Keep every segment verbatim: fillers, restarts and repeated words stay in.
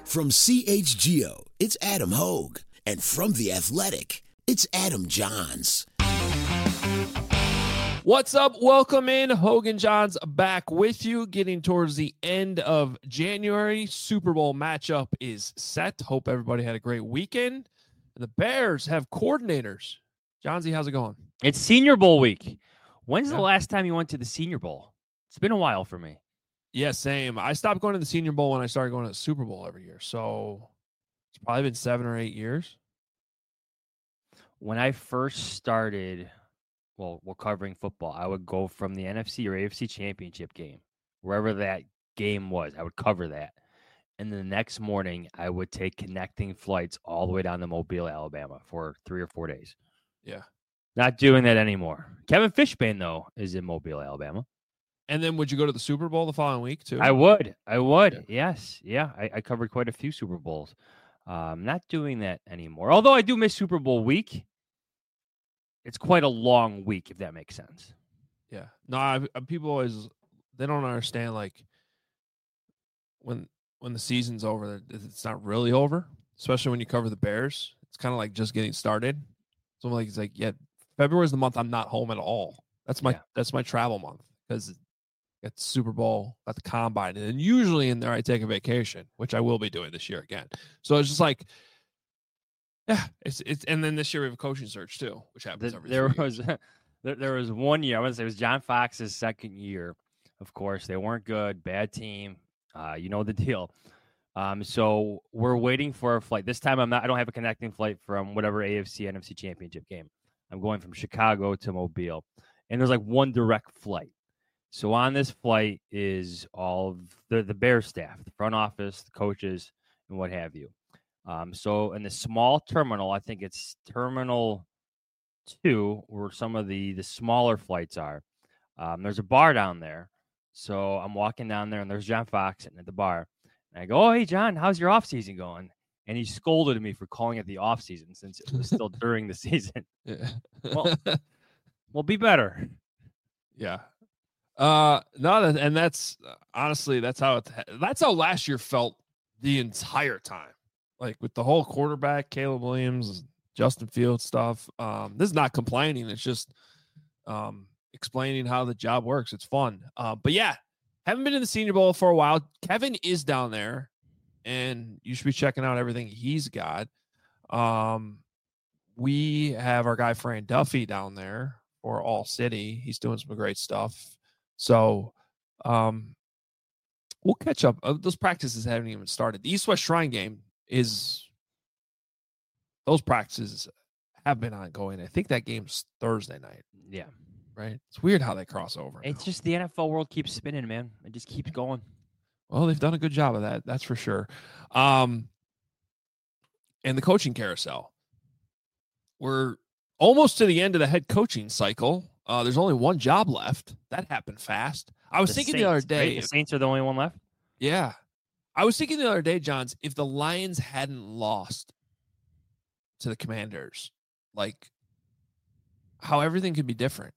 From C H G O, it's Adam Hogue. And from The Athletic, it's Adam Johns. What's up? Welcome in. Hogan Johns back with you, getting towards the end of January. Super Bowl matchup is set. Hope everybody had a great weekend. And the Bears have coordinators. Johnsy, how's it going? It's Senior Bowl week. When's Yeah. the last time you went to the Senior Bowl? It's been a while for me. Yeah, same. I stopped going to the Senior Bowl when I started going to the Super Bowl every year. So it's probably been seven or eight years. When I first started, well, well, covering football, I would go from the N F C or A F C championship game, wherever that game was. I would cover that. And then the next morning, I would take connecting flights all the way down to Mobile, Alabama for three or four days. Yeah. Not doing that anymore. Kevin Fishbane, though, is in Mobile, Alabama. And then would you go to the Super Bowl the following week, too? I would. I would. Yeah. Yes. Yeah. I, I covered quite a few Super Bowls. Um, not doing that anymore. Although I do miss Super Bowl week. It's quite a long week, if that makes sense. Yeah. No, I, I, people always, they don't understand, like, when when the season's over, it's not really over, especially when you cover the Bears. It's kind of like just getting started. So I'm like, it's like, yeah, February is the month I'm not home at all. That's my Yeah. that's my travel month because it's Super Bowl at the Combine, and then usually in there I take a vacation, which I will be doing this year again. So it's just like, yeah, it's it's, and then this year we have a coaching search too, which happens The, every. there three was years. there, there was one year. I want to say it was John Fox's second year. Of course, they weren't good, bad team. Uh, you know the deal. Um, so we're waiting for a flight. This time I'm not. I don't have a connecting flight from whatever A F C N F C championship game. I'm going from Chicago to Mobile, and there's like one direct flight. So on this flight is all of the the Bears staff, the front office, the coaches, and what have you. Um, so in the small terminal, I think it's Terminal Two, where some of the the smaller flights are. Um, there's a bar down there. So I'm walking down there, and there's John Fox sitting at the bar. And I go, "Oh, hey, John, how's your off season going?" And he scolded me for calling it the off season since it was still during the season. Yeah. Well, well, be better. Yeah. Uh, no, that, and that's honestly, that's how it, that's how last year felt the entire time. Like with the whole quarterback, Caleb Williams, Justin Fields stuff. Um, this is not complaining. It's just, um, explaining how the job works. It's fun. Uh, but yeah, haven't been in the Senior Bowl for a while. Kevin is down there, and you should be checking out everything he's got. Um, we have our guy Fran Duffy down there for All City. He's doing some great stuff. So, um, we'll catch up. Uh, those practices haven't even started. The East West Shrine game is. Those practices have been ongoing. I think that game's Thursday night. Yeah. Right. It's weird how they cross over. It's now. just the N F L world keeps spinning, man. It just keeps going. Well, they've done a good job of that. That's for sure. Um, and the coaching carousel. We're almost to the end of the head coaching cycle. Uh, there's only one job left. That happened fast. I was The thinking Saints, the other right? day. The Saints are the only one left. Yeah. I was thinking the other day, Johns, if the Lions hadn't lost to the Commanders, like how everything could be different.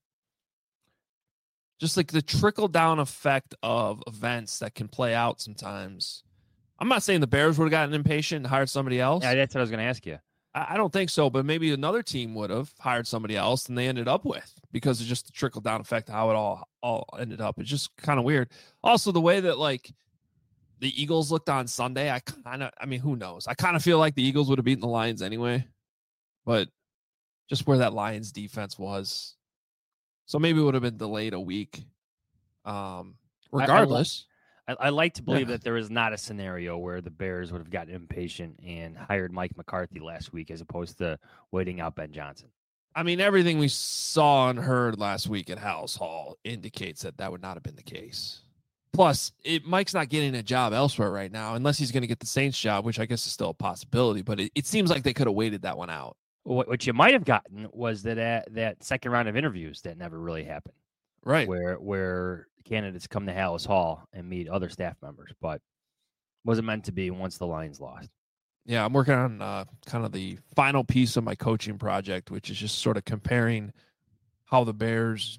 Just like the trickle down effect of events that can play out sometimes. I'm not saying the Bears would have gotten impatient and hired somebody else. Yeah, that's what I was going to ask you. I, I don't think so, but maybe another team would have hired somebody else than they ended up with because of just the trickle down effect, how it all, all ended up. It's just kind of weird. Also, the way that like the Eagles looked on Sunday, I kind of, I mean, who knows? I kind of feel like the Eagles would have beaten the Lions anyway, but just where that Lions defense was. So maybe it would have been delayed a week. Um, regardless. I, I, I like to believe Yeah. that there is not a scenario where the Bears would have gotten impatient and hired Mike McCarthy last week as opposed to waiting out Ben Johnson. I mean, everything we saw and heard last week at House Hall indicates that that would not have been the case. Plus, it, Mike's not getting a job elsewhere right now, unless he's going to get the Saints job, which I guess is still a possibility. But it, it seems like they could have waited that one out. What, what you might have gotten was that uh, that second round of interviews that never really happened, Right. where where candidates come to Hallis Hall and meet other staff members, but wasn't meant to be once the Lions lost. Yeah, I'm working on uh, kind of the final piece of my coaching project, which is just sort of comparing how the Bears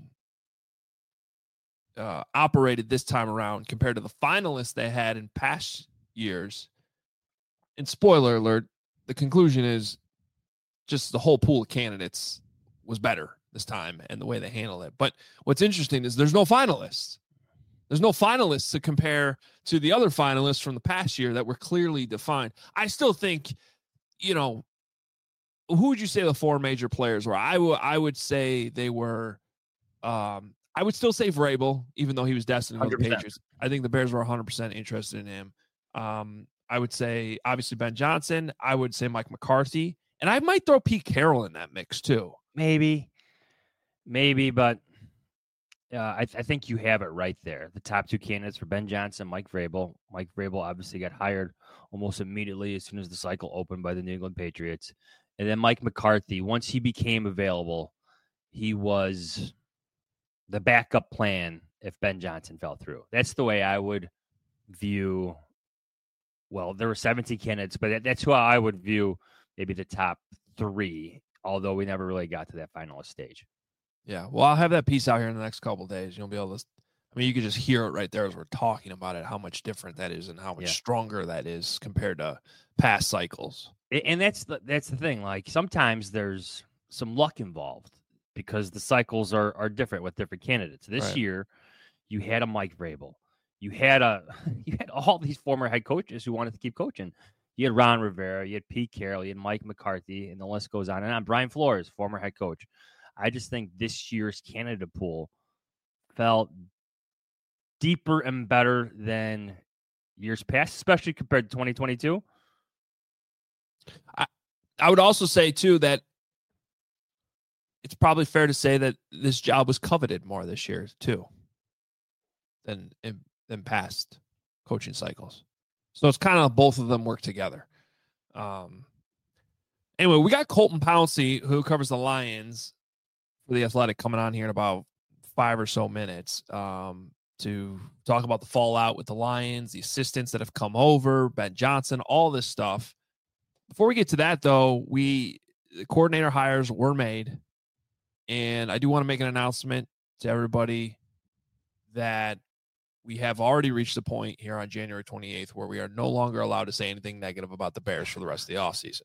uh, operated this time around compared to the finalists they had in past years and spoiler alert, the conclusion is just the whole pool of candidates was better this time and the way they handled it. But what's interesting is there's no finalists. There's no finalists to compare to the other finalists from the past year that were clearly defined. I still think, you know, who would you say the four major players were? I would I would say they were um, I would still say Vrabel, even though he was destined to go to the Patriots. I think the Bears were one hundred percent interested in him. Um, I would say, obviously, Ben Johnson. I would say Mike McCarthy. And I might throw Pete Carroll in that mix, too. Maybe. Maybe, but uh, I, th- I think you have it right there. The top two candidates for Ben Johnson, Mike Vrabel. Mike Vrabel obviously got hired almost immediately as soon as the cycle opened by the New England Patriots. And then Mike McCarthy, once he became available, he was the backup plan if Ben Johnson fell through. That's the way I would view. Well, there were seventeen candidates, but that, that's who I would view maybe the top three, although we never really got to that finalist stage. Yeah, well, I'll have that piece out here in the next couple of days. You'll be able to, I mean, you could just hear it right there as we're talking about it, how much different that is and how much yeah. stronger that is compared to past cycles. And that's the, that's the thing. Like, sometimes there's some luck involved because the cycles are are different with different candidates. This right. year, you had a Mike Vrabel. You had a you had all these former head coaches who wanted to keep coaching. You had Ron Rivera, you had Pete Carroll, you had Mike McCarthy, and the list goes on and on. Brian Flores, former head coach. I just think this year's candidate pool felt deeper and better than years past, especially compared to twenty twenty-two. I, I would also say, too, that it's probably fair to say that this job was coveted more this year, too, than in, than past coaching cycles. So it's kind of both of them work together. Um, anyway, we got Colton Pouncey, who covers the Lions for The Athletic, coming on here in about five or so minutes um, to talk about the fallout with the Lions, the assistants that have come over, Ben Johnson, all this stuff. Before we get to that, though, we the coordinator hires were made, and I do want to make an announcement to everybody that we have already reached the point here on January twenty-eighth where we are no longer allowed to say anything negative about the Bears for the rest of the offseason.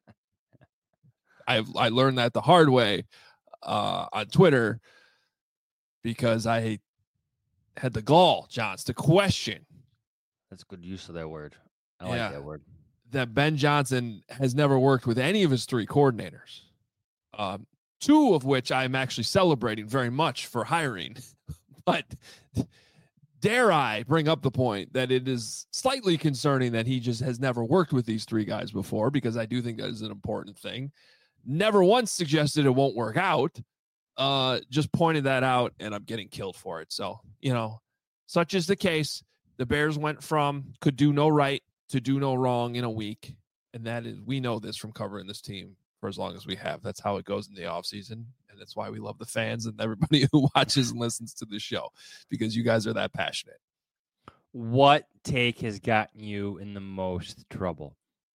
I I learned that the hard way uh, on Twitter because I had the gall, Johns, to question. That's good use of that word. I like yeah, that word. That Ben Johnson has never worked with any of his three coordinators, um, two of which I'm actually celebrating very much for hiring. But dare I bring up the point that it is slightly concerning that he just has never worked with these three guys before, because I do think that is an important thing. Never once suggested it won't work out. Uh, just pointed that out, and I'm getting killed for it. So, you know, such is the case. The Bears went from could do no right to do no wrong in a week. And that is, we know this from covering this team for as long as we have. That's how it goes in the offseason. And that's why we love the fans and everybody who watches and listens to the show, because you guys are that passionate. What take has gotten you in the most trouble?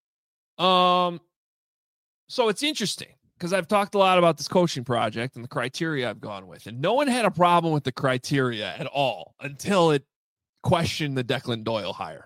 Um, so it's interesting because I've talked a lot about this coaching project and the criteria I've gone with, and no one had a problem with the criteria at all until it questioned the Declan Doyle hire.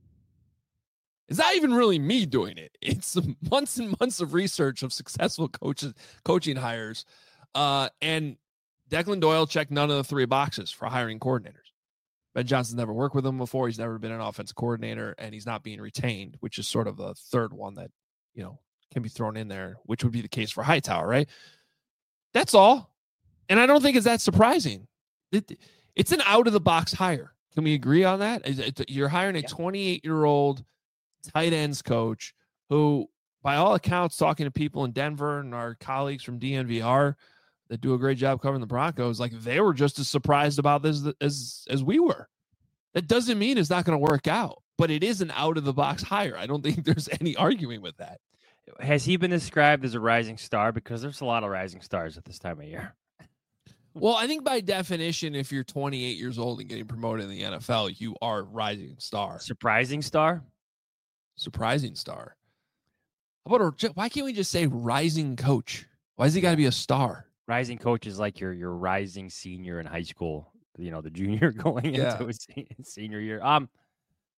It's not even really me doing it. It's months and months of research of successful coaches, coaching hires. Uh, and Declan Doyle checked none of the three boxes for hiring coordinators. Ben Johnson's never worked with him before. He's never been an offensive coordinator, and he's not being retained, which is sort of the third one that, you know, can be thrown in there, which would be the case for Hightower, right? That's all. And I don't think it's that surprising. It, it's an out-of-the-box hire. Can we agree on that? You're hiring a twenty-eight-year-old tight ends coach who, by all accounts, talking to people in Denver and our colleagues from D N V R that do a great job covering the Broncos, like they were just as surprised about this as as we were. That doesn't mean it's not going to work out, but it is an out of the box hire. I don't think there's any arguing with that. Has he been described as a rising star? Because there's a lot of rising stars at this time of year. Well, I think by definition, if you're twenty-eight years old and getting promoted in the N F L, you are a rising star. Surprising star? Surprising star. How about a, why can't we just say rising coach? Why has he got to be a star? Rising coach is like your your rising senior in high school. You know, the junior going yeah. into his senior year. Um,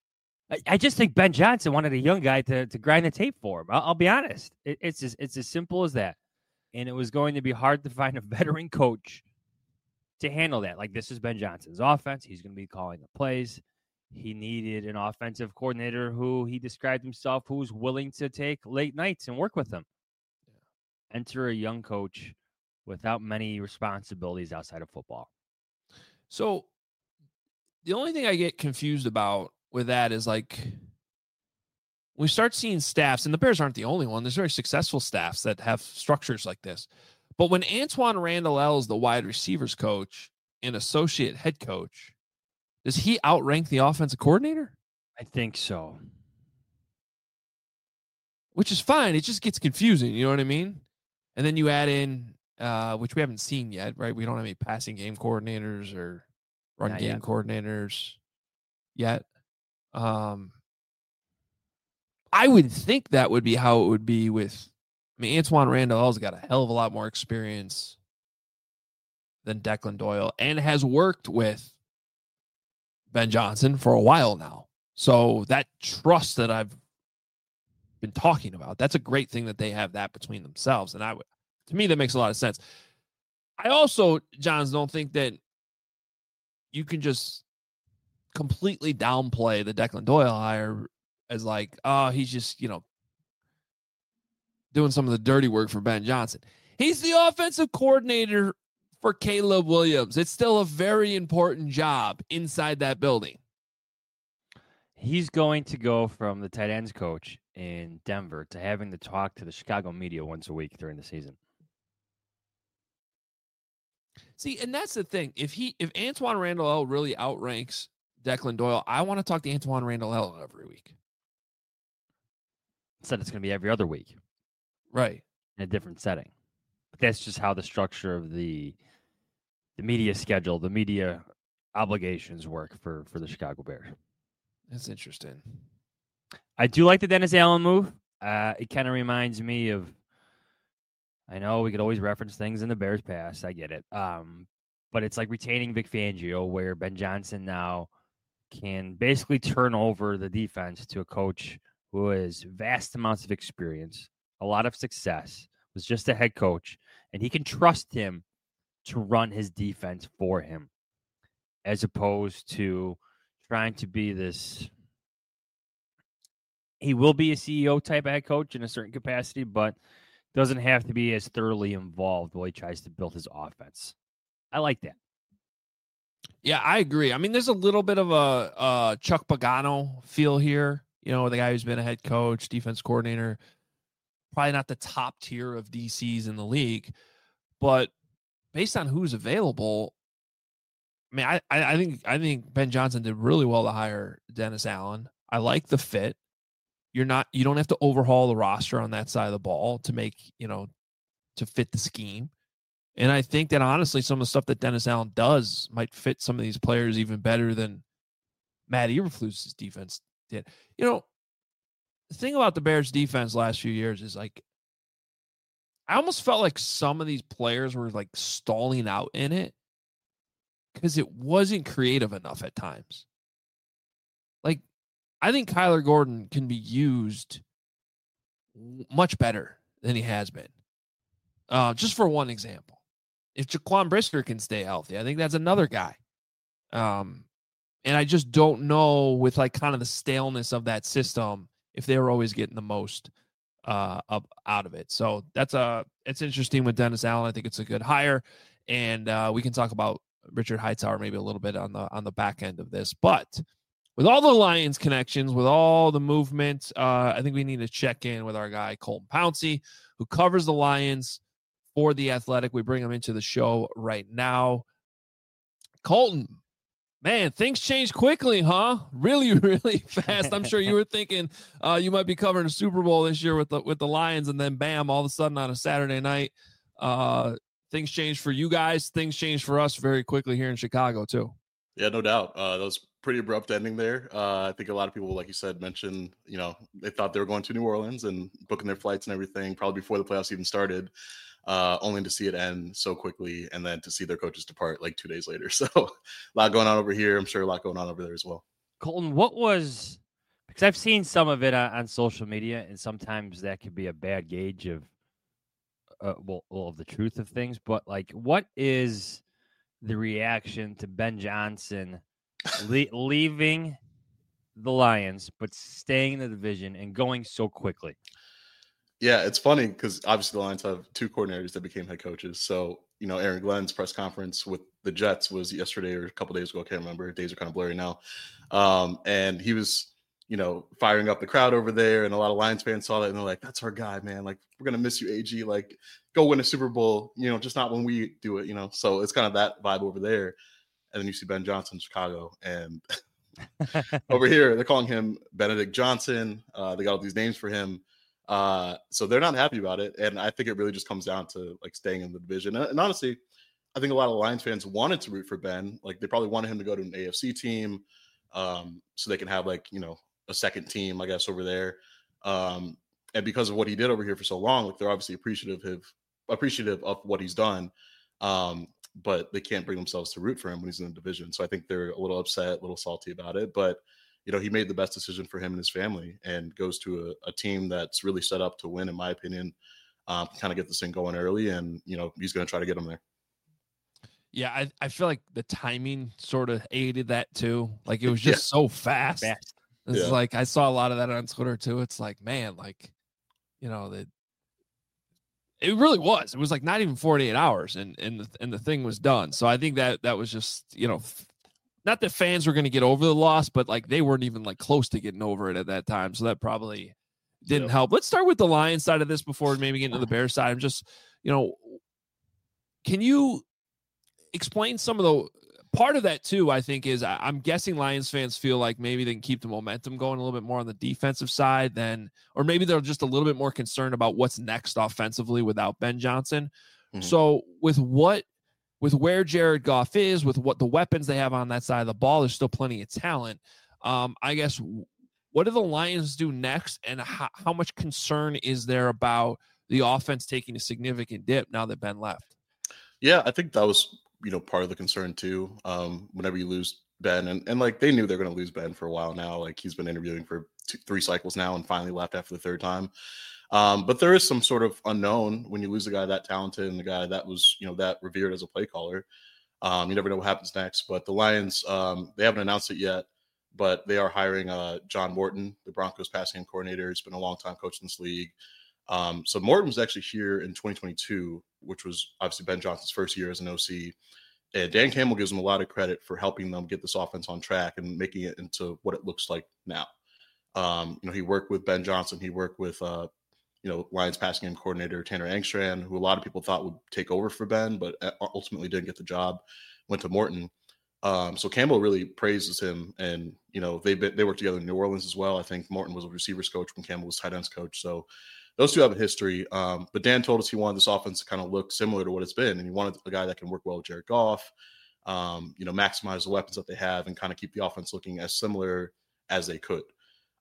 I, I just think Ben Johnson wanted a young guy to to grind the tape for him. I'll, I'll be honest. It, it's as, it's as simple as that. And it was going to be hard to find a veteran coach to handle that. Like, this is Ben Johnson's offense. He's going to be calling the plays. He needed an offensive coordinator who he described himself who was willing to take late nights and work with him. Yeah. Enter a young coach without many responsibilities outside of football. So the only thing I get confused about with that is, like, we start seeing staffs, and the Bears aren't the only one. There's very successful staffs that have structures like this. But when Antoine Randall El is the wide receivers coach and associate head coach, does he outrank the offensive coordinator? I think so. Which is fine. It just gets confusing. You know what I mean? And then you add in, uh, which we haven't seen yet, right? We don't have any passing game coordinators or run Not game yet. coordinators yet. Um, I would think that would be how it would be with, I mean, Antoine Randall L's got a hell of a lot more experience than Declan Doyle and has worked with Ben Johnson for a while now. So that trust that I've been talking about, that's a great thing that they have that between themselves. And I would, to me, that makes a lot of sense. I also, Johns, don't think that you can just completely downplay the Declan Doyle hire as like, oh, he's just, you know, doing some of the dirty work for Ben Johnson. He's the offensive coordinator for Caleb Williams. It's still a very important job inside that building. He's going to go from the tight ends coach in Denver to having to talk to the Chicago media once a week during the season. See, and that's the thing. If he, if Antoine Randall El really outranks Declan Doyle, I want to talk to Antoine Randall El every week. Instead, it's going to be every other week. Right. In a different setting. But that's just how the structure of the the media schedule, the media obligations work for, for the Chicago Bears. That's interesting. I do like the Dennis Allen move. Uh, it kind of reminds me of, I know we could always reference things in the Bears past. I get it. Um, but it's like retaining Vic Fangio, where Ben Johnson now can basically turn over the defense to a coach who has vast amounts of experience, a lot of success, was just a head coach, and he can trust him to run his defense for him, as opposed to trying to be this. He will be a C E O type head coach in a certain capacity, but doesn't have to be as thoroughly involved while he tries to build his offense. I like that. Yeah, I agree. I mean, there's a little bit of a uh, Chuck Pagano feel here. You know, the guy who's been a head coach, defense coordinator, probably not the top tier of D Cs in the league, but based on who's available, I mean, I, I think I think Ben Johnson did really well to hire Dennis Allen. I like the fit. You're not, you don't have to overhaul the roster on that side of the ball to make, you know, to fit the scheme. And I think that honestly, some of the stuff that Dennis Allen does might fit some of these players even better than Matt Eberflus's defense did. You know, the thing about the Bears defense last few years is, like, I almost felt like some of these players were like stalling out in it because it wasn't creative enough at times. Like, I think Kyler Gordon can be used much better than he has been. Uh, just for one example, if Jaquan Brisker can stay healthy, I think that's another guy. Um, and I just don't know, with like kind of the staleness of that system, if they were always getting the most uh, up out of it. So that's a, it's interesting with Dennis Allen. I think it's a good hire, and uh, we can talk about Richard Hightower maybe a little bit on the on the back end of this. But with all the Lions connections, with all the movement, uh, I think we need to check in with our guy Colton Pouncey, who covers the Lions for The Athletic. We bring him into the show right now. Colton, man, things change quickly, huh? Really, really fast. I'm sure you were thinking uh, you might be covering a Super Bowl this year with the with the Lions, and then bam, all of a sudden on a Saturday night, uh, things changed for you guys. Things changed for us very quickly here in Chicago too. Yeah, no doubt. Uh, that was pretty abrupt ending there. Uh, I think a lot of people, like you said, mentioned, you know, they thought they were going to New Orleans and booking their flights and everything, probably before the playoffs even started, uh, only to see it end so quickly and then to see their coaches depart like two days later. So a lot going on over here. I'm sure a lot going on over there as well. Colton, what was Because I've seen some of it on, on social media, and sometimes that could be a bad gauge of, uh, well, well, of the truth of things. But like, what is the reaction to Ben Johnson le- leaving the Lions, but staying in the division and going so quickly? Yeah, it's funny because obviously the Lions have two coordinators that became head coaches. So, you know, Aaron Glenn's press conference with the Jets was yesterday or a couple days ago. I can't remember. Days are kind of blurry now. Um, and he was, you know, firing up the crowd over there. And a lot of Lions fans saw that and they're like, that's our guy, man. Like, we're going to miss you, A G. Like, go win a Super Bowl, you know, just not when we do it, you know. So it's kind of that vibe over there. And then you see Ben Johnson in Chicago. And over here, they're calling him Benedict Johnson. Uh, they got all these names for him. Uh, so they're not happy about it. And I think it really just comes down to like staying in the division. And, and honestly, I think a lot of Lions fans wanted to root for Ben. Like they probably wanted him to go to an A F C team um, so they can have like, you know, a second team, I guess, over there. Um, and because of what he did over here for so long, like they're obviously appreciative of, appreciative of what he's done. Um, but they can't bring themselves to root for him when he's in the division. So I think they're a little upset, a little salty about it. But you know, he made the best decision for him and his family and goes to a, a team that's really set up to win, in my opinion, um, kind of get this thing going early. And, you know, he's going to try to get them there. Yeah, I, I feel like the timing sort of aided that too. Like it was just yeah. so fast. fast. It's yeah. like I saw a lot of that on Twitter too. It's like, man, like, you know, that it really was. It was like not even forty-eight hours and and the, and the thing was done. So I think that that was just, you know, not that fans were going to get over the loss, but like they weren't even like close to getting over it at that time. So that probably didn't yep. help. Let's start with the Lions side of this before maybe getting to the Bears side. I'm just, you know, can you explain some of the part of that too? I think is I'm guessing Lions fans feel like maybe they can keep the momentum going a little bit more on the defensive side than, or maybe they're just a little bit more concerned about what's next offensively without Ben Johnson. Mm-hmm. So with what, with where Jared Goff is, with what the weapons they have on that side of the ball, there's still plenty of talent. Um, I guess, what do the Lions do next, and how, how much concern is there about the offense taking a significant dip now that Ben left? Yeah, I think that was, you know, part of the concern too. Um, whenever you lose Ben, and, and like they knew they're going to lose Ben for a while now. Like he's been interviewing for two, three cycles now and finally left after the third time. Um, but there is some sort of unknown when you lose a guy that talented and the guy that was, you know, that revered as a play caller. Um, you never know what happens next. But the Lions, um, they haven't announced it yet, but they are hiring uh, John Morton, the Broncos passing game coordinator. He's been a long time coach in this league. Um, so Morton was actually here in twenty twenty-two, which was obviously Ben Johnson's first year as an O C. And Dan Campbell gives him a lot of credit for helping them get this offense on track and making it into what it looks like now. Um, you know, he worked with Ben Johnson. He worked with, uh, you know, Lions passing game coordinator Tanner Engstrand, who a lot of people thought would take over for Ben, but ultimately didn't get the job, went to Morton. Um, so Campbell really praises him. And, you know, they've been, they worked together in New Orleans as well. I think Morton was a receivers coach when Campbell was tight ends coach. So those two have a history. Um, but Dan told us he wanted this offense to kind of look similar to what it's been. And he wanted a guy that can work well with Jared Goff, um, you know, maximize the weapons that they have and kind of keep the offense looking as similar as they could.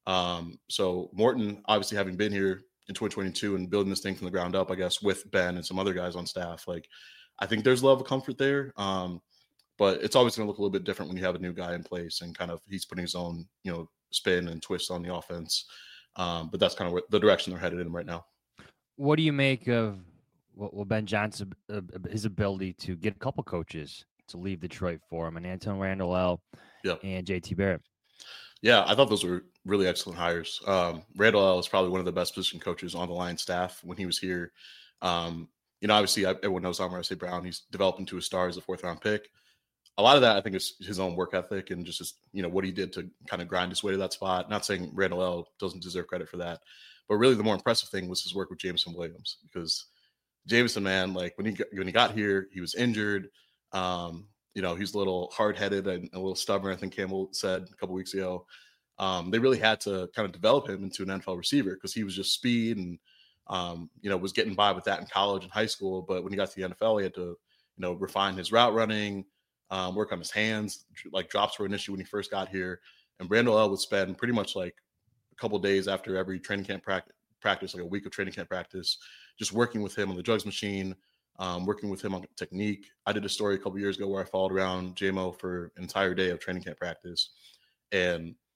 Um, so Morton, obviously having been here in twenty twenty-two and building this thing from the ground up, I guess, with Ben and some other guys on staff, like I think there's a level of comfort there. Um, but it's always going to look a little bit different when you have a new guy in place and kind of he's putting his own, you know, spin and twist on the offense. Um, but that's kind of what the direction they're headed in right now. What do you make of well, Ben Johnson, uh, his ability to get a couple coaches to leave Detroit for him, and Anton Randall yep. and J T Barrett? Yeah, I thought those were really excellent hires. Um, Randall L. is probably one of the best position coaches on the Lions staff when he was here. Um, you know, obviously, I, everyone knows Amon-Ra Saint Brown. He's developed into a star as a fourth round pick. A lot of that, I think, is his own work ethic and just his, you know, what he did to kind of grind his way to that spot. Not saying Randall L. doesn't deserve credit for that, but really the more impressive thing was his work with Jameson Williams, because Jameson, man, like when he got, when he got here, he was injured. Um, you know, he's a little hard-headed and a little stubborn, I think Campbell said a couple weeks ago. Um, they really had to kind of develop him into an N F L receiver because he was just speed and, um, you know, was getting by with that in college and high school. But when he got to the N F L, he had to, you know, refine his route running, um, work on his hands. Like drops were an issue when he first got here. And Randall L. would spend pretty much like a couple days after every training camp practice, practice, like a week of training camp practice, just working with him on the drugs machine, um, working with him on technique. I did a story a couple years ago where I followed around J M O for an entire day of training camp practice. And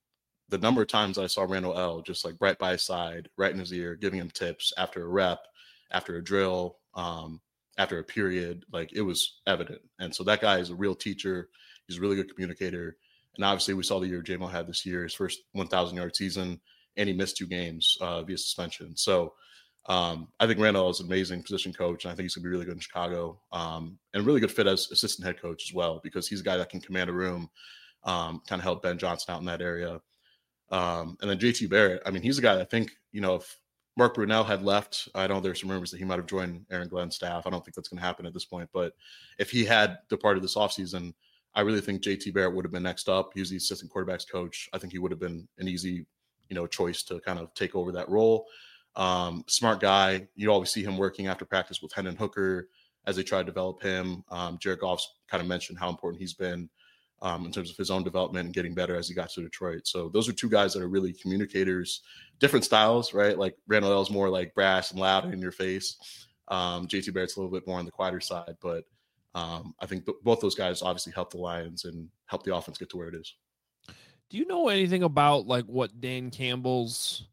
the number of times I saw Randall L just like right by his side, right in his ear, giving him tips after a rep, after a drill, um, after a period, like it was evident. And so that guy is a real teacher. He's a really good communicator. And obviously we saw the year J Mo had this year, his first one thousand yard season, and he missed two games uh, via suspension. So um, I think Randall is an amazing position coach, and I think he's going to be really good in Chicago, um, and really good fit as assistant head coach as well, because he's a guy that can command a room, um, kind of help Ben Johnson out in that area. Um, and then J T Barrett, I mean, he's a guy that I think, you know, if Mark Brunell had left, I know there's some rumors that he might have joined Aaron Glenn's staff. I don't think that's going to happen at this point. But if he had departed this offseason, I really think J T Barrett would have been next up. He was the assistant quarterbacks coach. I think he would have been an easy, you know, choice to kind of take over that role. Um, smart guy. You always see him working after practice with Hendon Hooker as they try to develop him. Um, Jared Goff's kind of mentioned how important he's been um, in terms of his own development and getting better as he got to Detroit. So those are two guys that are really communicators, different styles, right? Like Randall L is more like brash and loud in your face. Um, J T Barrett's a little bit more on the quieter side, but um, I think th- both those guys obviously help the Lions and help the offense get to where it is. Do you know anything about like what Dan Campbell's,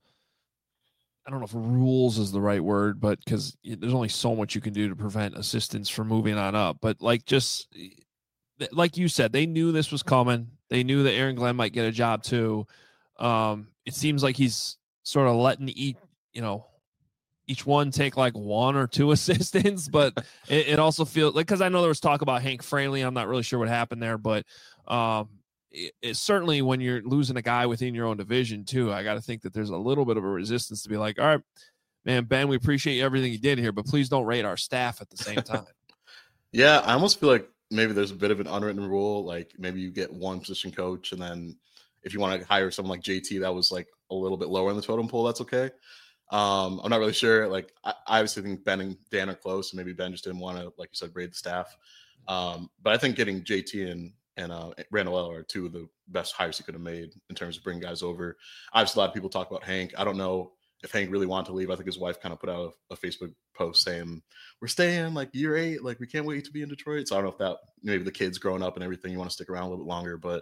I don't know if rules is the right word, but because there's only so much you can do to prevent assistants from moving on up, but like just like you said, they knew this was coming. They knew that Aaron Glenn might get a job too. Um, it seems like he's sort of letting each, you know, each one take like one or two assistants, but it, it also feels like, cause I know there was talk about Hank Fraley. I'm not really sure what happened there, but um, it, it's certainly when you're losing a guy within your own division too, I got to think that there's a little bit of a resistance to be like, all right, man, Ben, we appreciate everything you did here, but please don't rate our staff at the same time. Yeah. I almost feel like maybe there's a bit of an unwritten rule. Like maybe you get one position coach, and then if you want to hire someone like J T, that was like a little bit lower in the totem pole, that's okay. Um, I'm not really sure. Like I, I obviously think Ben and Dan are close, and maybe Ben just didn't want to, like you said, raid the staff. Um, but I think getting J T and, and uh, Randall L are two of the best hires he could have made in terms of bringing guys over. Obviously, a lot of people talk about Hank. I don't know if Hank really wanted to leave. I think his wife kind of put out a, a Facebook post saying, we're staying like year eight. Like we can't wait to be in Detroit. So I don't know if that, maybe the kids growing up and everything, you want to stick around a little bit longer, but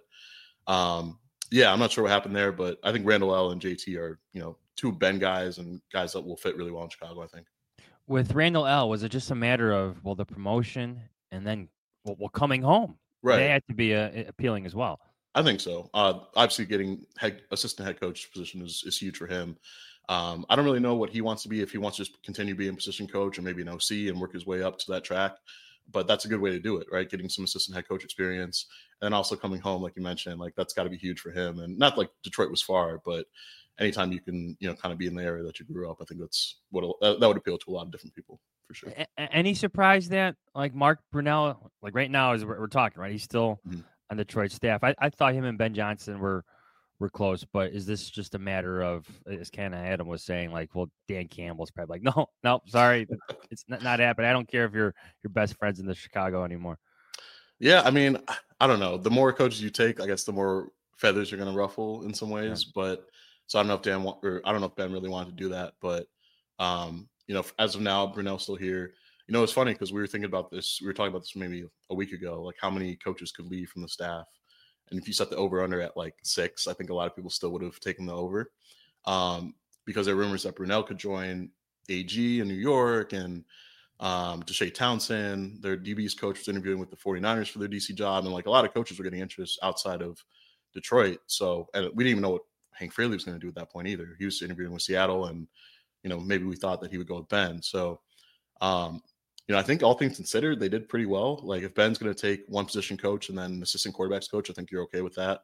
um, yeah, I'm not sure what happened there, but I think Randall L and J T are, you know, two Ben guys and guys that will fit really well in Chicago, I think. With Randall L, was it just a matter of, well, the promotion and then well, well coming home? Right. They had to be uh, appealing as well. I think so. Uh, obviously, getting head, assistant head coach position is, is huge for him. Um, I don't really know what he wants to be, if he wants to just continue being position coach or maybe an O C and work his way up to that track. But that's a good way to do it, right? Getting some assistant head coach experience and also coming home, like you mentioned, like that's got to be huge for him. And not like Detroit was far, but anytime you can, you know, kind of be in the area that you grew up, I think that's what that, that would appeal to a lot of different people for sure. A- any surprise that like Mark Brunell, like right now as we're, we're talking, right? He's still mm-hmm. on Detroit staff. I, I thought him and Ben Johnson were were close, but is this just a matter of, as Ken Adam was saying, like, well, Dan Campbell's probably like, no, no, sorry, it's not, not happening. I don't care if you're your best friends in the Chicago anymore. Yeah, I mean, I don't know. The more coaches you take, I guess the more feathers you're going to ruffle in some ways. Yeah. But so I don't know if Dan want, or I don't know if Ben really wanted to do that. But um, you know, as of now, Brunell's still here. You know, it's funny because we were thinking about this. We were talking about this maybe a week ago, like how many coaches could leave from the staff. And if you set the over under at like six, I think a lot of people still would have taken the over um, because there are rumors that Brunell could join A G in New York, and um, Deshae Townsend, their D B's coach, was interviewing with the 49ers for their D C job. And like a lot of coaches were getting interest outside of Detroit. So, and we didn't even know what Hank Fraley was going to do at that point either. He was interviewing with Seattle, and, you know, maybe we thought that he would go with Ben. So, um, you know, I think all things considered, they did pretty well. Like if Ben's going to take one position coach and then assistant quarterbacks coach, I think you're okay with that.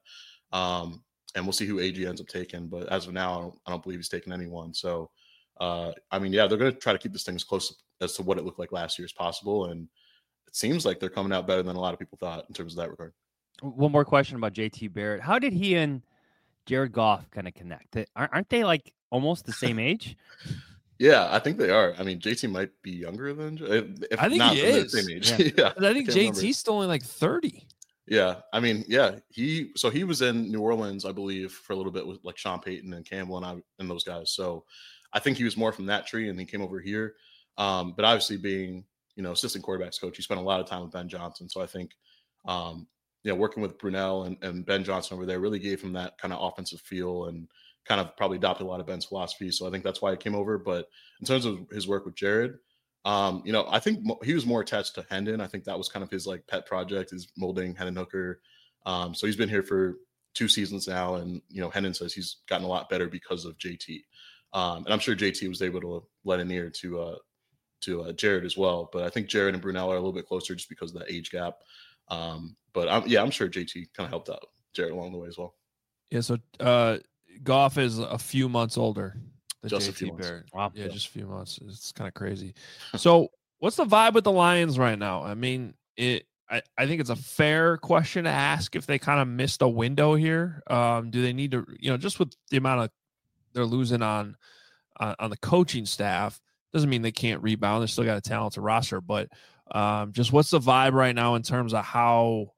Um, and we'll see who A G ends up taking. But as of now, I don't, I don't believe he's taking anyone. So, uh, I mean, yeah, they're going to try to keep this thing as close as to what it looked like last year as possible. And it seems like they're coming out better than a lot of people thought in terms of that regard. One more question about J T Barrett. How did he and Jared Goff kind of connect? Aren't they like almost the same age? Yeah, I think they are. I mean, J T might be younger than if I think not he is. Same age. Yeah. yeah I think J T's still only like thirty. Yeah, I mean, yeah, he so he was in New Orleans, I believe, for a little bit with like Sean Payton and Campbell and I and those guys. So I think he was more from that tree, and he came over here. Um, but obviously, being you know assistant quarterbacks coach, he spent a lot of time with Ben Johnson. So I think, um, you know, working with Brunell and, and Ben Johnson over there really gave him that kind of offensive feel and kind of probably adopted a lot of Ben's philosophy. So I think that's why he came over. But in terms of his work with Jared, um, you know, I think mo- he was more attached to Hendon. I think that was kind of his like pet project, is molding Hendon Hooker. Um, so he's been here for two seasons now. And, you know, Hendon says he's gotten a lot better because of J T. Um, and I'm sure J T was able to let an ear to, uh, to uh, Jared as well. But I think Jared and Brunell are a little bit closer just because of that age gap. Um, but I'm, yeah, I'm sure J T kind of helped out Jared along the way as well. Yeah. So uh, Goff is a few months older than Just J a few T months. Barrett. Wow. Yeah, Yeah. just a few months. It's kind of crazy. So what's the vibe with the Lions right now? I mean, it. I, I think it's a fair question to ask if they kind of missed a window here. Um, do they need to, you know, just with the amount of they're losing on on, on the coaching staff, doesn't mean they can't rebound. They still got a talented roster, but um, just what's the vibe right now in terms of how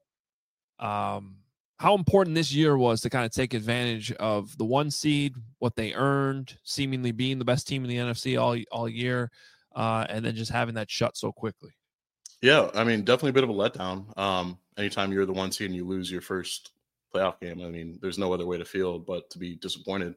um, how important this year was to kind of take advantage of the one seed, what they earned, seemingly being the best team in the N F C all all year, uh, and then just having that shut so quickly. Yeah, I mean, definitely a bit of a letdown. Um, anytime you're the one seed and you lose your first playoff game, I mean, there's no other way to feel but to be disappointed.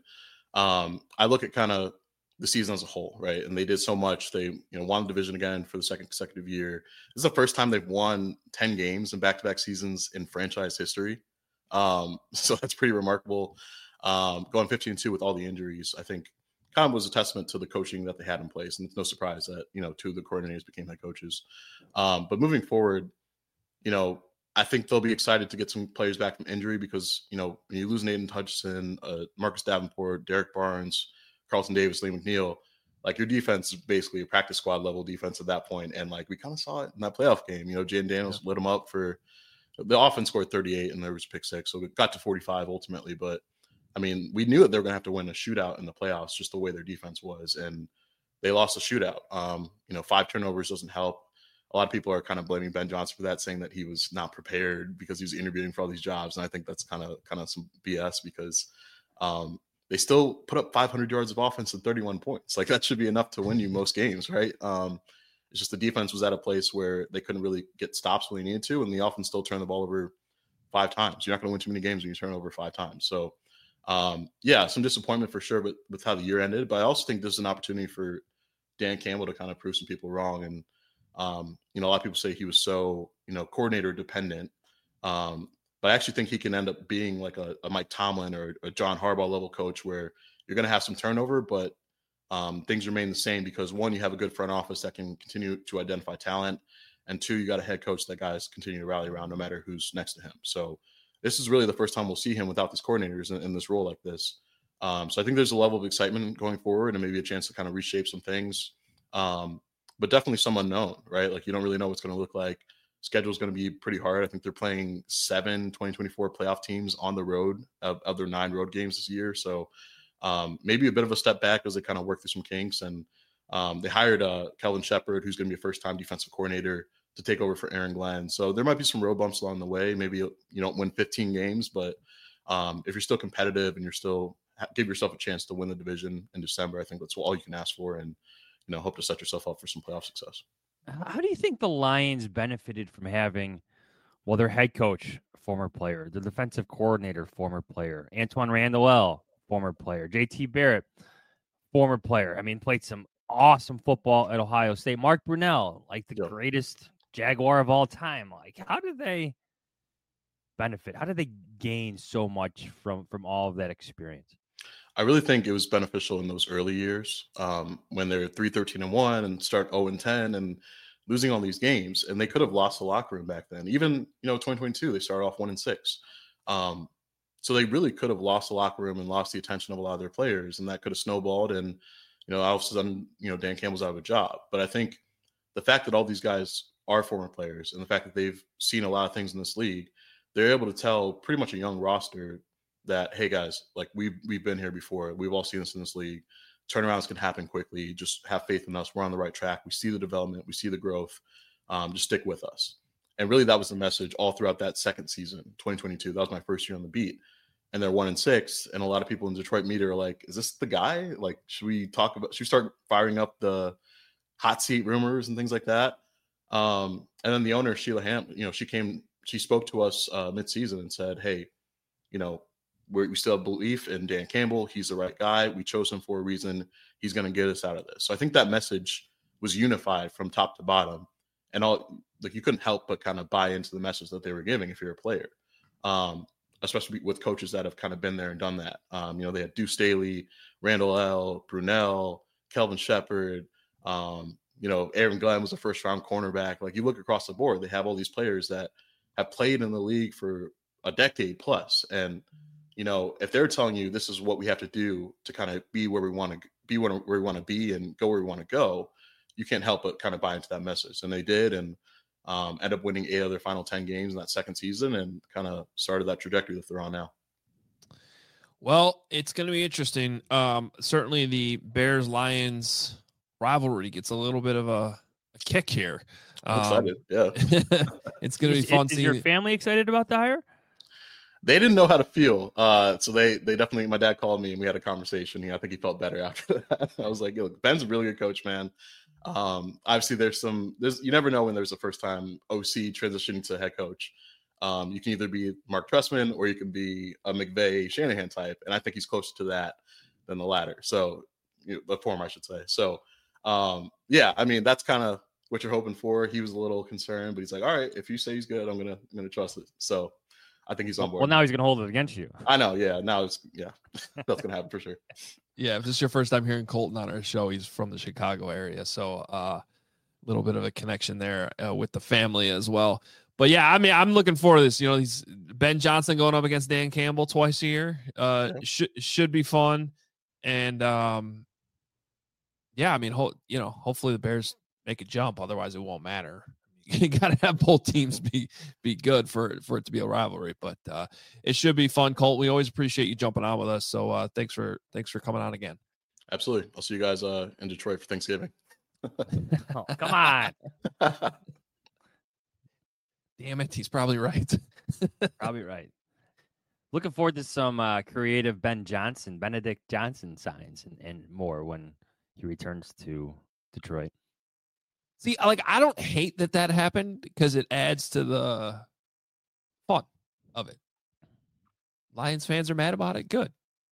Um, I look at kind of the season as a whole, right? And they did so much. They, you know, won the division again for the second consecutive year. This is the first time they've won ten games in back-to-back seasons in franchise history. Um, so that's pretty remarkable. Um, going fifteen and two with all the injuries, I think kind of was a testament to the coaching that they had in place. And it's no surprise that, you know, two of the coordinators became head coaches. Um, but moving forward, you know, I think they'll be excited to get some players back from injury because, you know, when you lose Nathan Hutchinson, uh, Marcus Davenport, Derek Barnes, Carlton Davis, Lee McNeil, like your defense is basically a practice squad level defense at that point. And like we kind of saw it in that playoff game. You know, Jaden Daniels yeah. lit them up for the offense scored thirty-eight and there was pick six. So it got to forty-five ultimately. But I mean, we knew that they were going to have to win a shootout in the playoffs, just the way their defense was. And they lost a shootout. Um, you know, five turnovers doesn't help. A lot of people are kind of blaming Ben Johnson for that, saying that he was not prepared because he was interviewing for all these jobs. And I think that's kind of kind of some B S because um, they still put up five hundred yards of offense and thirty-one points. Like that should be enough to win you most games, right? Um, it's just the defense was at a place where they couldn't really get stops when they needed to, and the offense still turned the ball over five times. You're not going to win too many games when you turn over five times. So, um, yeah, some disappointment for sure with, with how the year ended. But I also think there's an opportunity for Dan Campbell to kind of prove some people wrong. And Um, you know, a lot of people say he was so, you know, coordinator dependent. Um, but I actually think he can end up being like a, a Mike Tomlin or a John Harbaugh level coach where you're going to have some turnover, but um, things remain the same because one, you have a good front office that can continue to identify talent. And two, you got a head coach that guys continue to rally around no matter who's next to him. So this is really the first time we'll see him without these coordinators in, in this role like this. Um, so I think there's a level of excitement going forward and maybe a chance to kind of reshape some things. Um, but definitely some unknown, right? Like you don't really know what's going to look like. Schedule is going to be pretty hard. I think they're playing seven twenty twenty-four playoff teams on the road of, of their nine road games this year. So um, maybe a bit of a step back as they kind of work through some kinks. And um, they hired uh, Kelvin Shepard, who's going to be a first-time defensive coordinator to take over for Aaron Glenn. So there might be some road bumps along the way. Maybe you don't win fifteen games, but um, if you're still competitive and you're still give yourself a chance to win the division in December, I think that's all you can ask for. And you know, hope to set yourself up for some playoff success. How do you think the Lions benefited from having, well, their head coach, former player, the defensive coordinator, former player, Antoine Randall, former player, J T Barrett, former player. I mean, played some awesome football at Ohio State. Mark Brunell, like the yep. greatest Jaguar of all time. Like, how did they benefit? How did they gain so much from from all of that experience? I really think it was beneficial in those early years um, when they're three thirteen and one and start oh and ten and losing all these games. And they could have lost the locker room back then. Even, you know, twenty twenty-two, they started off one and six. Um, so they really could have lost the locker room and lost the attention of a lot of their players. And that could have snowballed. And, you know, all of a sudden, you know, Dan Campbell's out of a job. But I think the fact that all these guys are former players and the fact that they've seen a lot of things in this league, they're able to tell pretty much a young roster that, hey guys, like we've, we've been here before. We've all seen this in this league. Turnarounds can happen quickly. Just have faith in us. We're on the right track. We see the development. We see the growth. Um, just stick with us. And really that was the message all throughout that second season, twenty twenty-two. That was my first year on the beat. And they're one and six. And a lot of people in Detroit media are like, is this the guy? Like, should we talk about, should we start firing up the hot seat rumors and things like that? Um, and then the owner, Sheila Ham, you know, she came, she spoke to us uh, mid-season and said, hey, you know, we're, we still have belief in Dan Campbell. He's the right guy. We chose him for a reason. He's going to get us out of this. So I think that message was unified from top to bottom. And all like you couldn't help but kind of buy into the message that they were giving if you're a player, um, especially with coaches that have kind of been there and done that. Um, you know, they had Deuce Staley, Randall L., Brunell, Kelvin Shepherd, um, you know, Aaron Glenn was a first round cornerback. Like you look across the board, they have all these players that have played in the league for a decade plus. And, you know, if they're telling you this is what we have to do to kind of be where we want to be, where, where we want to be and go where we want to go, you can't help but kind of buy into that message. And they did, and um, end up winning eight of their final ten games in that second season and kind of started that trajectory that they're on now. Well, it's going to be interesting. Um, certainly the Bears-Lions rivalry gets a little bit of a, a kick here. I'm um, excited. Yeah. It's going to be fun. Is, seeing is your family excited about the hire? They didn't know how to feel. Uh, so they they definitely, my dad called me and we had a conversation. He, I think he felt better after that. I was like, yo, Ben's a really good coach, man. Um, obviously there's some, there's, you never know when there's a first time O C transitioning to head coach. Um, you can either be Mark Trestman or you can be a McVay Shanahan type. And I think he's closer to that than the latter. So you know, the former, I should say. So um, yeah, I mean, that's kind of what you're hoping for. He was a little concerned, but he's like, all right, if you say he's good, I'm going to, I'm going to trust it. So I think he's on board. Well, now he's going to hold it against you. I know. Yeah. Now it's, yeah, that's going to happen for sure. Yeah, if this is your first time hearing Colton on our show, he's from the Chicago area, so a uh, little bit of a connection there uh, with the family as well. But yeah, I mean, I'm looking forward to this. You know, he's Ben Johnson going up against Dan Campbell twice a year. Uh, yeah. should should be fun, and um, yeah, I mean, ho- you know, hopefully the Bears make a jump. Otherwise, it won't matter. You got to have both teams be be good for for it to be a rivalry, but uh, it should be fun. Colt, we always appreciate you jumping on with us. So uh, thanks for thanks for coming on again. Absolutely. I'll see you guys uh, in Detroit for Thanksgiving. Oh, come on. Damn it, he's probably right. Probably right. Looking forward to some uh, creative Ben Johnson, Benedict Johnson signs and, and more when he returns to Detroit. See, like, I don't hate that that happened because it adds to the fun of it. Lions fans are mad about it. Good.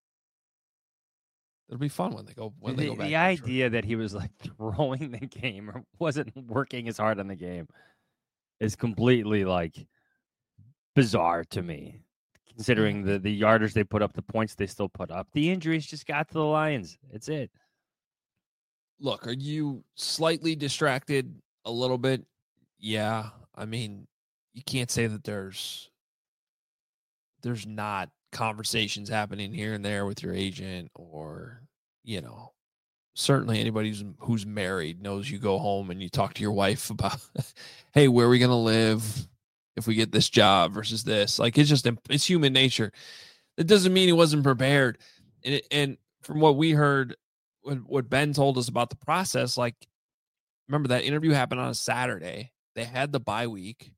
It'll be fun when they go when the, they go back. The idea that he was like throwing the game or wasn't working as hard on the game is completely like bizarre to me, considering the the yardage they put up, the points they still put up. The injuries just got to the Lions. It's it. Look, are you slightly distracted a little bit? Yeah. I mean, you can't say that there's there's not conversations happening here and there with your agent or, you know, certainly anybody who's, who's married knows you go home and you talk to your wife about, hey, where are we going to live if we get this job versus this? Like, it's just, it's human nature. It doesn't mean he wasn't prepared. And, it, and from what we heard, what Ben told us about the process, like, remember that interview happened on a Saturday. They had the bye week,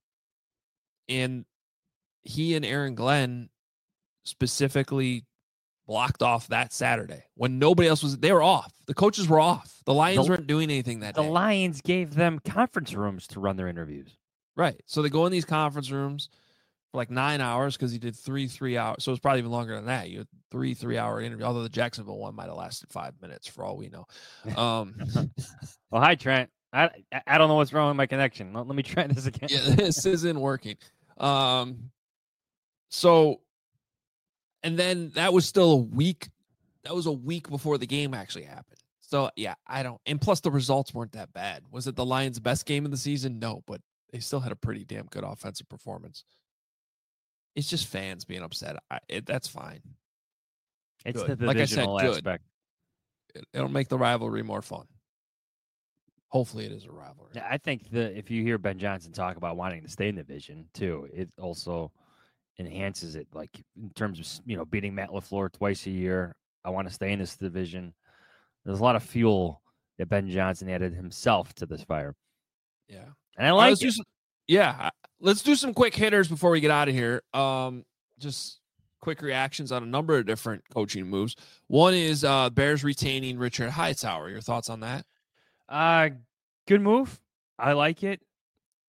and he and Aaron Glenn specifically blocked off that Saturday when nobody else was. They were off. The coaches were off. The Lions the, weren't doing anything that the day. The Lions gave them conference rooms to run their interviews. Right. So they go in these conference rooms for like nine hours because he did three three hours. So it's probably even longer than that. You had three three hour interview. Although the Jacksonville one might have lasted five minutes for all we know. Um, well, hi Trent. I I don't know what's wrong with my connection. Let, let me try this again. Yeah, this isn't working. Um, so, and then that was still a week. That was a week before the game actually happened. So yeah, I don't. And plus, the results weren't that bad. Was it the Lions' best game of the season? No, but they still had a pretty damn good offensive performance. It's just fans being upset. I, it, that's fine. It's good. the Like I said, aspect. Good. It, it'll make the rivalry more fun. Hopefully, it is a rivalry. Yeah, I think the if you hear Ben Johnson talk about wanting to stay in the division too, it also enhances it. Like in terms of you know beating Matt LaFleur twice a year. I want to stay in this division. There's a lot of fuel that Ben Johnson added himself to this fire. Yeah, and I like. Just, yeah. Let's do some quick hitters before we get out of here. Um, just quick reactions on a number of different coaching moves. One is uh, Bears retaining Richard Hightower. Your thoughts on that? Uh, good move. I like it.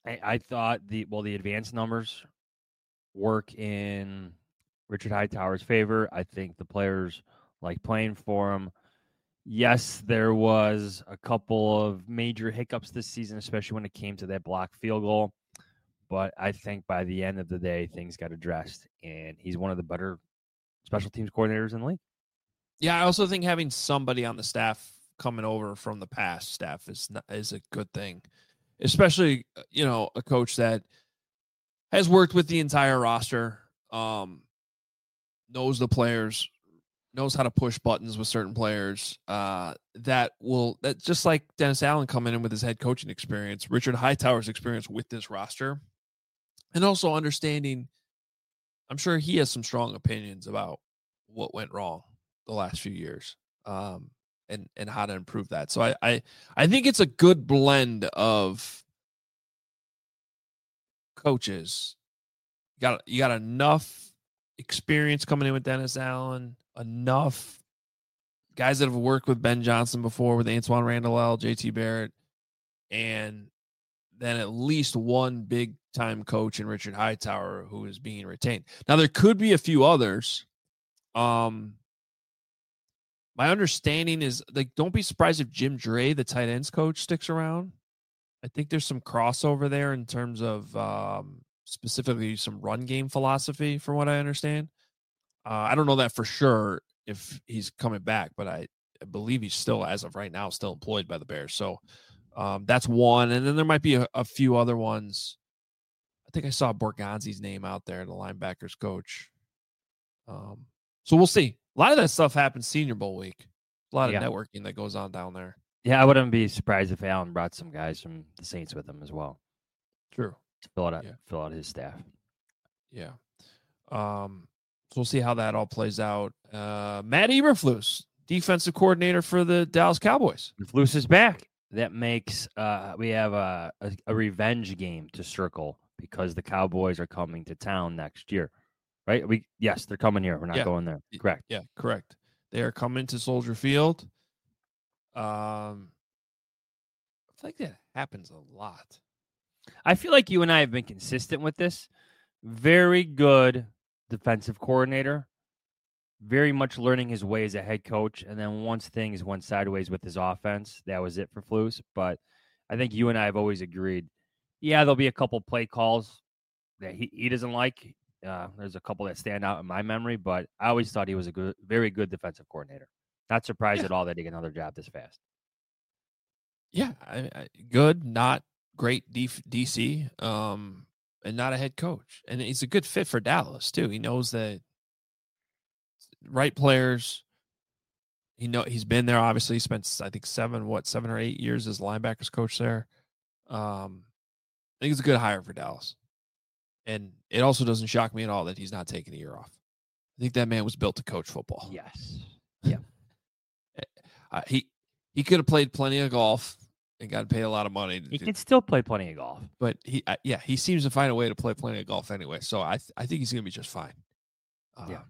I, I thought the well the advanced numbers work in Richard Hightower's favor. I think the players like playing for him. Yes, there was a couple of major hiccups this season, especially when it came to that block field goal. But I think by the end of the day, things got addressed, and he's one of the better special teams coordinators in the league. Yeah, I also think having somebody on the staff coming over from the past staff is not, is a good thing, especially, you know, a coach that has worked with the entire roster, um, knows the players, knows how to push buttons with certain players. Uh, that will that just like Dennis Allen coming in with his head coaching experience, Richard Hightower's experience with this roster, and also understanding. I'm sure he has some strong opinions about what went wrong the last few years, um, and and how to improve that. So I I I think it's a good blend of coaches. You got you got enough experience coming in with Dennis Allen, enough guys that have worked with Ben Johnson before, with Antoine Randall, J T Barrett, and then at least one big time coach in Richard Hightower who is being retained. Now there could be a few others. Um, my understanding is, like, don't be surprised if Jim Dre, the tight ends coach, sticks around. I think there's some crossover there in terms of um, specifically some run game philosophy, from what I understand. Uh, I don't know that for sure if he's coming back, but I, I believe he's still, as of right now, still employed by the Bears. So um, that's one. And then there might be a, a few other ones. I think I saw Borgonzi's name out there, the linebackers coach. Um, so we'll see. A lot of that stuff happens Senior Bowl week. A lot of Yeah. networking that goes on down there. Yeah, I wouldn't be surprised if Allen brought some guys from the Saints with him as well True. to fill out Yeah. fill out his staff. Yeah. Um, so we'll see how that all plays out. Uh, Matt Eberflus, defensive coordinator for the Dallas Cowboys. If Luce is back, that makes uh, we have a, a, a revenge game to circle because the Cowboys are coming to town next year, right? We yes, they're coming here. We're not Yeah. going there. Correct. Yeah, correct. They are coming to Soldier Field. Um, I feel like that happens a lot. I feel like you and I have been consistent with this. Very good defensive coordinator. Very much learning his way as a head coach. And then once things went sideways with his offense, that was it for Flus. But I think you and I have always agreed, yeah, there'll be a couple play calls that he, he doesn't like. Uh, there's a couple that stand out in my memory, but I always thought he was a good, very good defensive coordinator. Not surprised Yeah. at all that he got another job this fast. Yeah, I, I, good, not great D, DC, um, and not a head coach. And he's a good fit for Dallas too. He knows that right players. He know he's been there. Obviously, he spent I think seven, what seven or eight years as linebackers coach there. Um, I think it's a good hire for Dallas, and it also doesn't shock me at all that he's not taking a year off. I think that man was built to coach football. Yes. Uh, he he could have played plenty of golf and got paid a lot of money. To He do, can still play plenty of golf. but he uh, yeah he seems to find a way to play plenty of golf anyway. So I th- I think he's gonna be just fine. Uh, Yeah.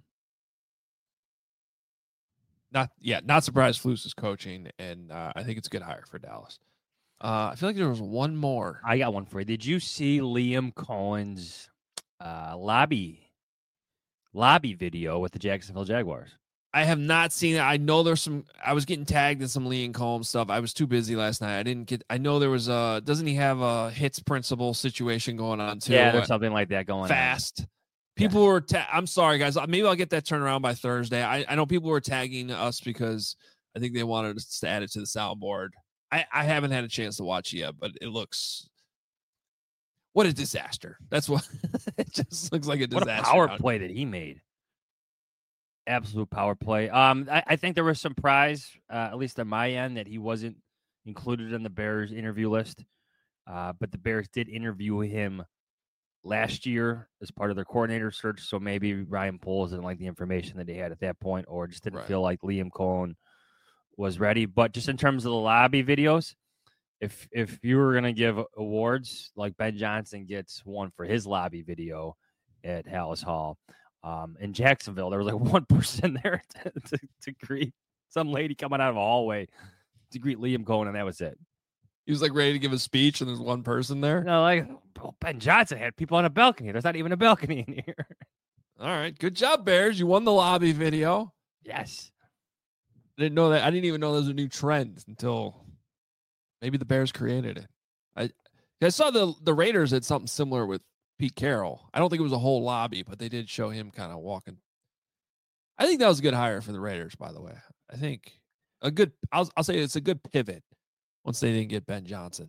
Not yeah not surprised Flus is coaching, and uh, I think it's a good hire for Dallas. Uh, I feel like there was one more. I got one for you. Did you see Liam Cohen's uh, lobby lobby video with the Jacksonville Jaguars? I have not seen it. I know there's some. I was getting tagged in some Liam Cohen stuff. I was too busy last night. I didn't get. I know there was a. Doesn't he have a hits principle situation going on too? Yeah, there's something like that going fast. on. People were. Ta- I'm sorry, guys. Maybe I'll get that turned around by Thursday. I, I know people were tagging us because I think they wanted us to add it to the soundboard. I, I haven't had a chance to watch it yet, but it looks. What a disaster! That's what. It just looks like a disaster. What a power now. play that he made. Absolute power play. Um, I, I think there was some prize, uh, at least on my end, that he wasn't included in the Bears interview list. Uh, but the Bears did interview him last year as part of their coordinator search. So maybe Ryan Poles didn't like the information that he had at that point, or just didn't Right. feel like Liam Cohen was ready. But just in terms of the lobby videos, if if you were gonna give awards, like Ben Johnson gets one for his lobby video at Hallis Hall. Um, in Jacksonville, there was like one person there to, to, to greet some lady coming out of a hallway to greet Liam Cohen, and that was it. He was like ready to give a speech, and there's one person there. No, like oh, Ben Johnson had people on a balcony. There's not even a balcony in here. All right, good job, Bears. You won the lobby video. Yes. Didn't know that. I didn't even know there was a new trend until maybe the Bears created it. I I saw the the Raiders had something similar with Pete Carroll. I don't think it was a whole lobby, but they did show him kind of walking. I think that was a good hire for the Raiders, by the way. I think a good. I'll I'll say it's a good pivot once they didn't get Ben Johnson.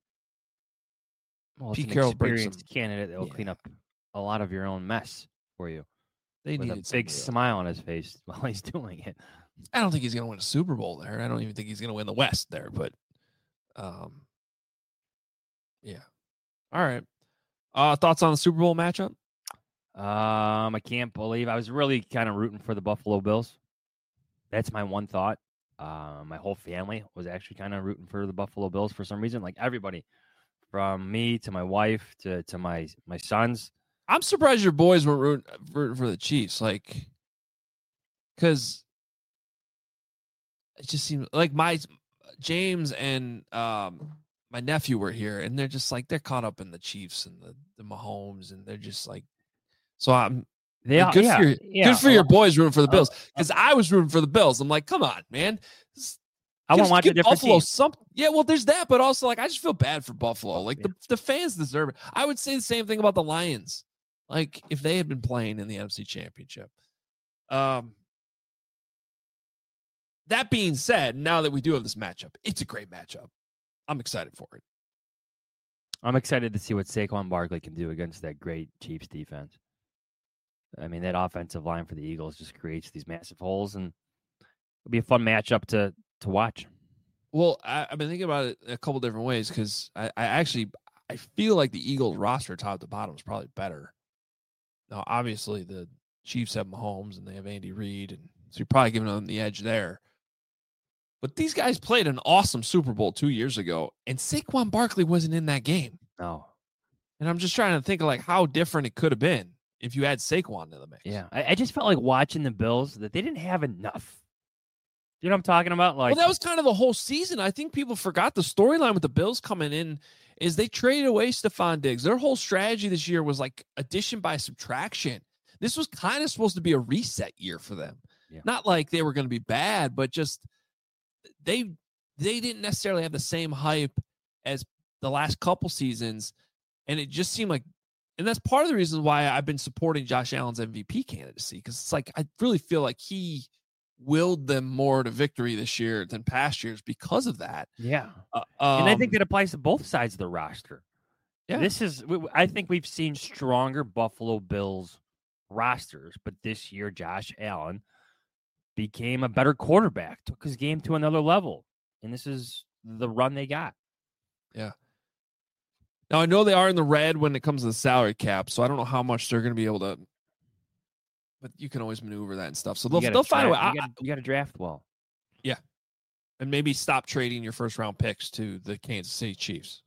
Well, it's Pete an Carroll brings experienced candidate that will yeah. clean up a lot of your own mess for you. They with a needed big somebody else. smile on his face while he's doing it. I don't think he's going to win a Super Bowl there. I don't even think he's going to win the West there, but um, yeah. All right. Uh, thoughts on the Super Bowl matchup? Um, I can't believe I was really kind of rooting for the Buffalo Bills. That's my one thought. Uh, my whole family was actually kind of rooting for the Buffalo Bills for some reason. Like everybody, from me to my wife to to my my sons. I'm surprised your boys weren't rooting for, for the Chiefs, like, because it just seems like my James and um my nephew were here, and they're just like they're caught up in the Chiefs and the the Mahomes, and they're just like, so I'm They like, are good yeah, for your, yeah, good for your boys rooting for the uh, Bills, because I was rooting for the Bills. I'm like, come on, man. This, I want to Give- watch a give different Buffalo team. some, yeah. Well, there's that, but also like I just feel bad for Buffalo. Like Yeah. the, the fans deserve it. I would say the same thing about the Lions. Like if they had been playing in the N F C Championship. Um. That being said, now that we do have this matchup, it's a great matchup. I'm excited for it. I'm excited to see what Saquon Barkley can do against that great Chiefs defense. I mean, that offensive line for the Eagles just creates these massive holes, and it'll be a fun matchup to to watch. Well, I, I've been thinking about it a couple different ways because I, I actually I feel like the Eagles roster top to bottom is probably better. Now, obviously, the Chiefs have Mahomes and they have Andy Reid, and so you're probably giving them the edge there. But these guys played an awesome Super Bowl two years ago, and Saquon Barkley wasn't in that game. No. And I'm just trying to think of like how different it could have been if you had Saquon in the mix. Yeah. I, I just felt like watching the Bills that they didn't have enough. You know what I'm talking about? Like, Well, that was kind of the whole season. I think people forgot the storyline with the Bills coming in is they traded away Stephon Diggs. Their whole strategy this year was like addition by subtraction. This was kind of supposed to be a reset year for them. Yeah. Not like they were going to be bad, but just they they didn't necessarily have the same hype as the last couple seasons. And it just seemed like, and that's part of the reason why I've been supporting Josh Allen's M V P candidacy, because it's like I really feel like he willed them more to victory this year than past years because of that. yeah. Uh, And I think um, that applies to both sides of the roster. Yeah. This is, I think we've seen stronger Buffalo Bills rosters, but this year, Josh Allen became a better quarterback, took his game to another level. And this is the run they got. Yeah. Now, I know they are in the red when it comes to the salary cap, so I don't know how much they're going to be able to, but you can always maneuver that and stuff. So they'll, You gotta they'll find a way. draft- I- You got, you got to draft well. and maybe stop trading your first round picks to the Kansas City Chiefs.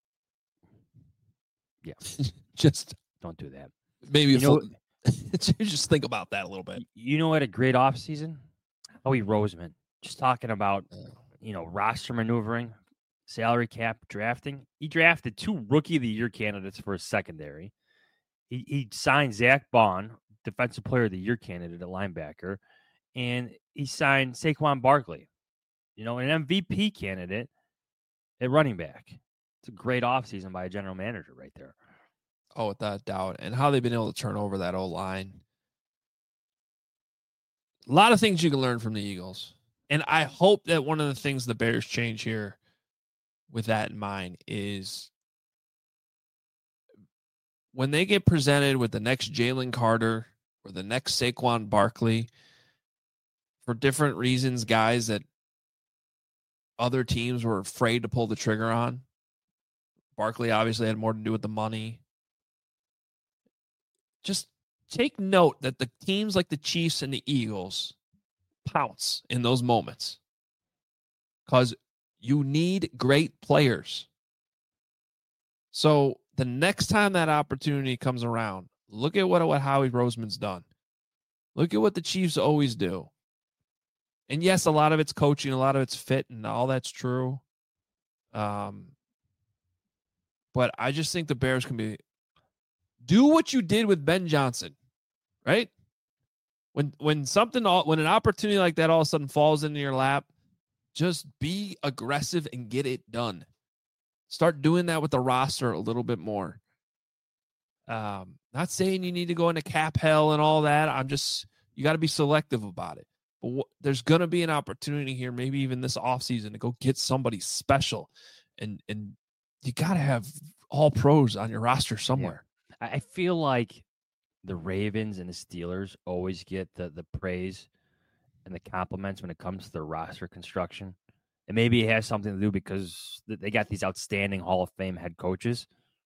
Yeah. Just Don't do that. maybe You a know, full, just think about that a little bit. you know what? A great offseason? Howie Roseman. Just talking about, you know, roster maneuvering, salary cap, drafting. He drafted two Rookie of the Year candidates for his secondary. He, he signed Zach Bond, Defensive Player of the Year candidate at linebacker, and he signed Saquon Barkley, you know, an M V P candidate at running back. It's a great offseason by a general manager right there. Oh, without doubt. And how they've been able to turn over that old line. A lot of things you can learn from the Eagles. And I hope that one of the things the Bears change here with that in mind is when they get presented with the next Jalen Carter or the next Saquon Barkley, for different reasons, guys that other teams were afraid to pull the trigger on. Barkley obviously had more to do with the money. Just take note that the teams like the Chiefs and the Eagles pounce in those moments because you need great players. So the next time that opportunity comes around, look at what, what Howie Roseman's done. Look at what the Chiefs always do. And yes, a lot of it's coaching, a lot of it's fit, and all that's true. Um, but I just think the Bears can be do what you did with Ben Johnson, right? When when something all when an opportunity like that all of a sudden falls into your lap, just be aggressive and get it done. Start doing that with the roster a little bit more. Um, not saying you need to go into cap hell and all that. I'm just you got to be selective about it. But w- there's going to be an opportunity here, maybe even this offseason, to go get somebody special. And and you got to have all pros on your roster somewhere. Yeah. I feel like the Ravens and the Steelers always get the, the praise and the compliments when it comes to their roster construction. And maybe it has something to do because they got these outstanding Hall of Fame head coaches.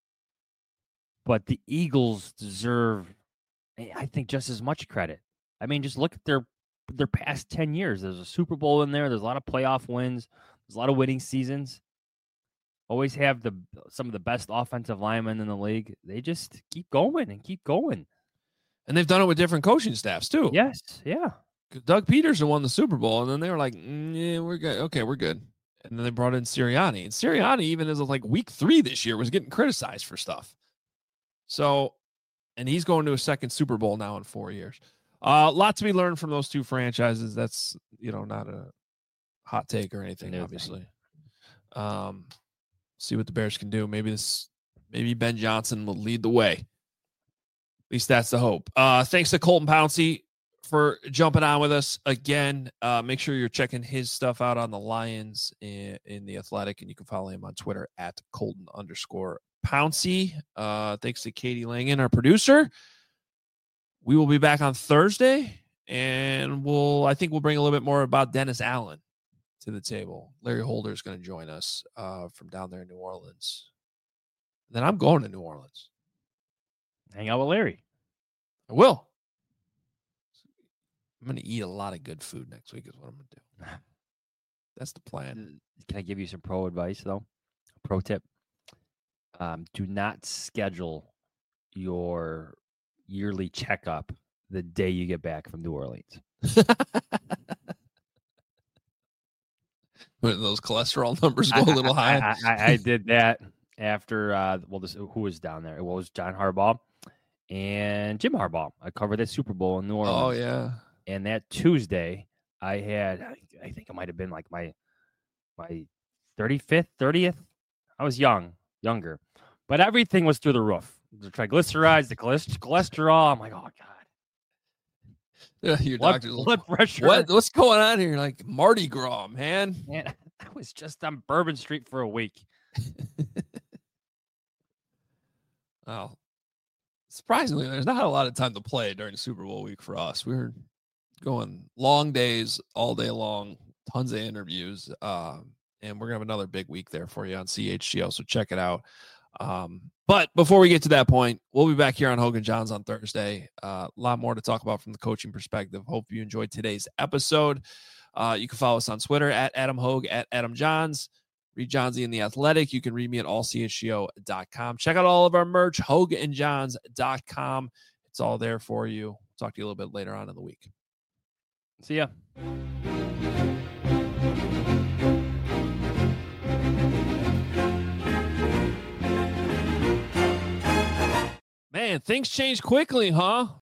But the Eagles deserve, I think, just as much credit. I mean, just look at their their past ten years. There's a Super Bowl in there. There's a lot of playoff wins. There's a lot of winning seasons. Always have the some of the best offensive linemen in the league. They just keep going and keep going. And they've done it with different coaching staffs, too. Yes, yeah. Doug Peterson won the Super Bowl, and then they were like, mm, yeah, we're good. Okay, we're good. And then they brought in Sirianni. And Sirianni, even as of like week three this year, was getting criticized for stuff. So, and he's going to a second Super Bowl now in four years. A uh, lot to be learned from those two franchises. That's, you know, not a hot take or anything, no obviously. Um, see what the Bears can do. Maybe this, maybe Ben Johnson will lead the way. At least that's the hope. Uh, thanks to Colton Pouncey for jumping on with us again. Uh, make sure you're checking his stuff out on the Lions in, in the Athletic, and you can follow him on Twitter at Colton underscore Pouncey. Uh, thanks to Katie Langen, our producer. We will be back on Thursday, and we'll I think we'll bring a little bit more about Dennis Allen to the table. Larry Holder is going to join us uh, from down there in New Orleans. Then I'm going to New Orleans. Hang out with Larry. I will. I'm going to eat a lot of good food next week is what I'm going to do. That's the plan. Can I give you some pro advice, though? Pro tip. Um, do not schedule your yearly checkup the day you get back from New Orleans. When those cholesterol numbers go a little I, high. I, I, I did that after, uh, well, this, who was down there? It was John Harbaugh and Jim Harbaugh. I covered that Super Bowl in New Orleans. Oh, yeah. And that Tuesday, I had, I think it might have been like my my thirty-fifth, thirtieth. I was young, younger. But everything was through the roof. The triglycerides, the cholesterol. I'm like, oh, God. Yeah, your blood, doctor's blood like, pressure. What, what's going on here? Like Mardi Gras, man. Man, I was just on Bourbon Street for a week. Well, surprisingly, there's not a lot of time to play during Super Bowl week for us. We were going long days all day long, tons of interviews, um, and we're gonna have another big week there for you on C H G O, so check it out. Um, but before we get to that point, we'll be back here on Hogan Johns on Thursday. Uh, a lot more to talk about from the coaching perspective. Hope you enjoyed today's episode. Uh, you can follow us on Twitter at Adam Hogue, at Adam Johns. Read Johnsy in the Athletic. You can read me at all c h g o dot com. Check out all of our merch, hogue and johns dot com. It's all there for you. Talk to you a little bit later on in the week. See ya. Man, things change quickly, huh?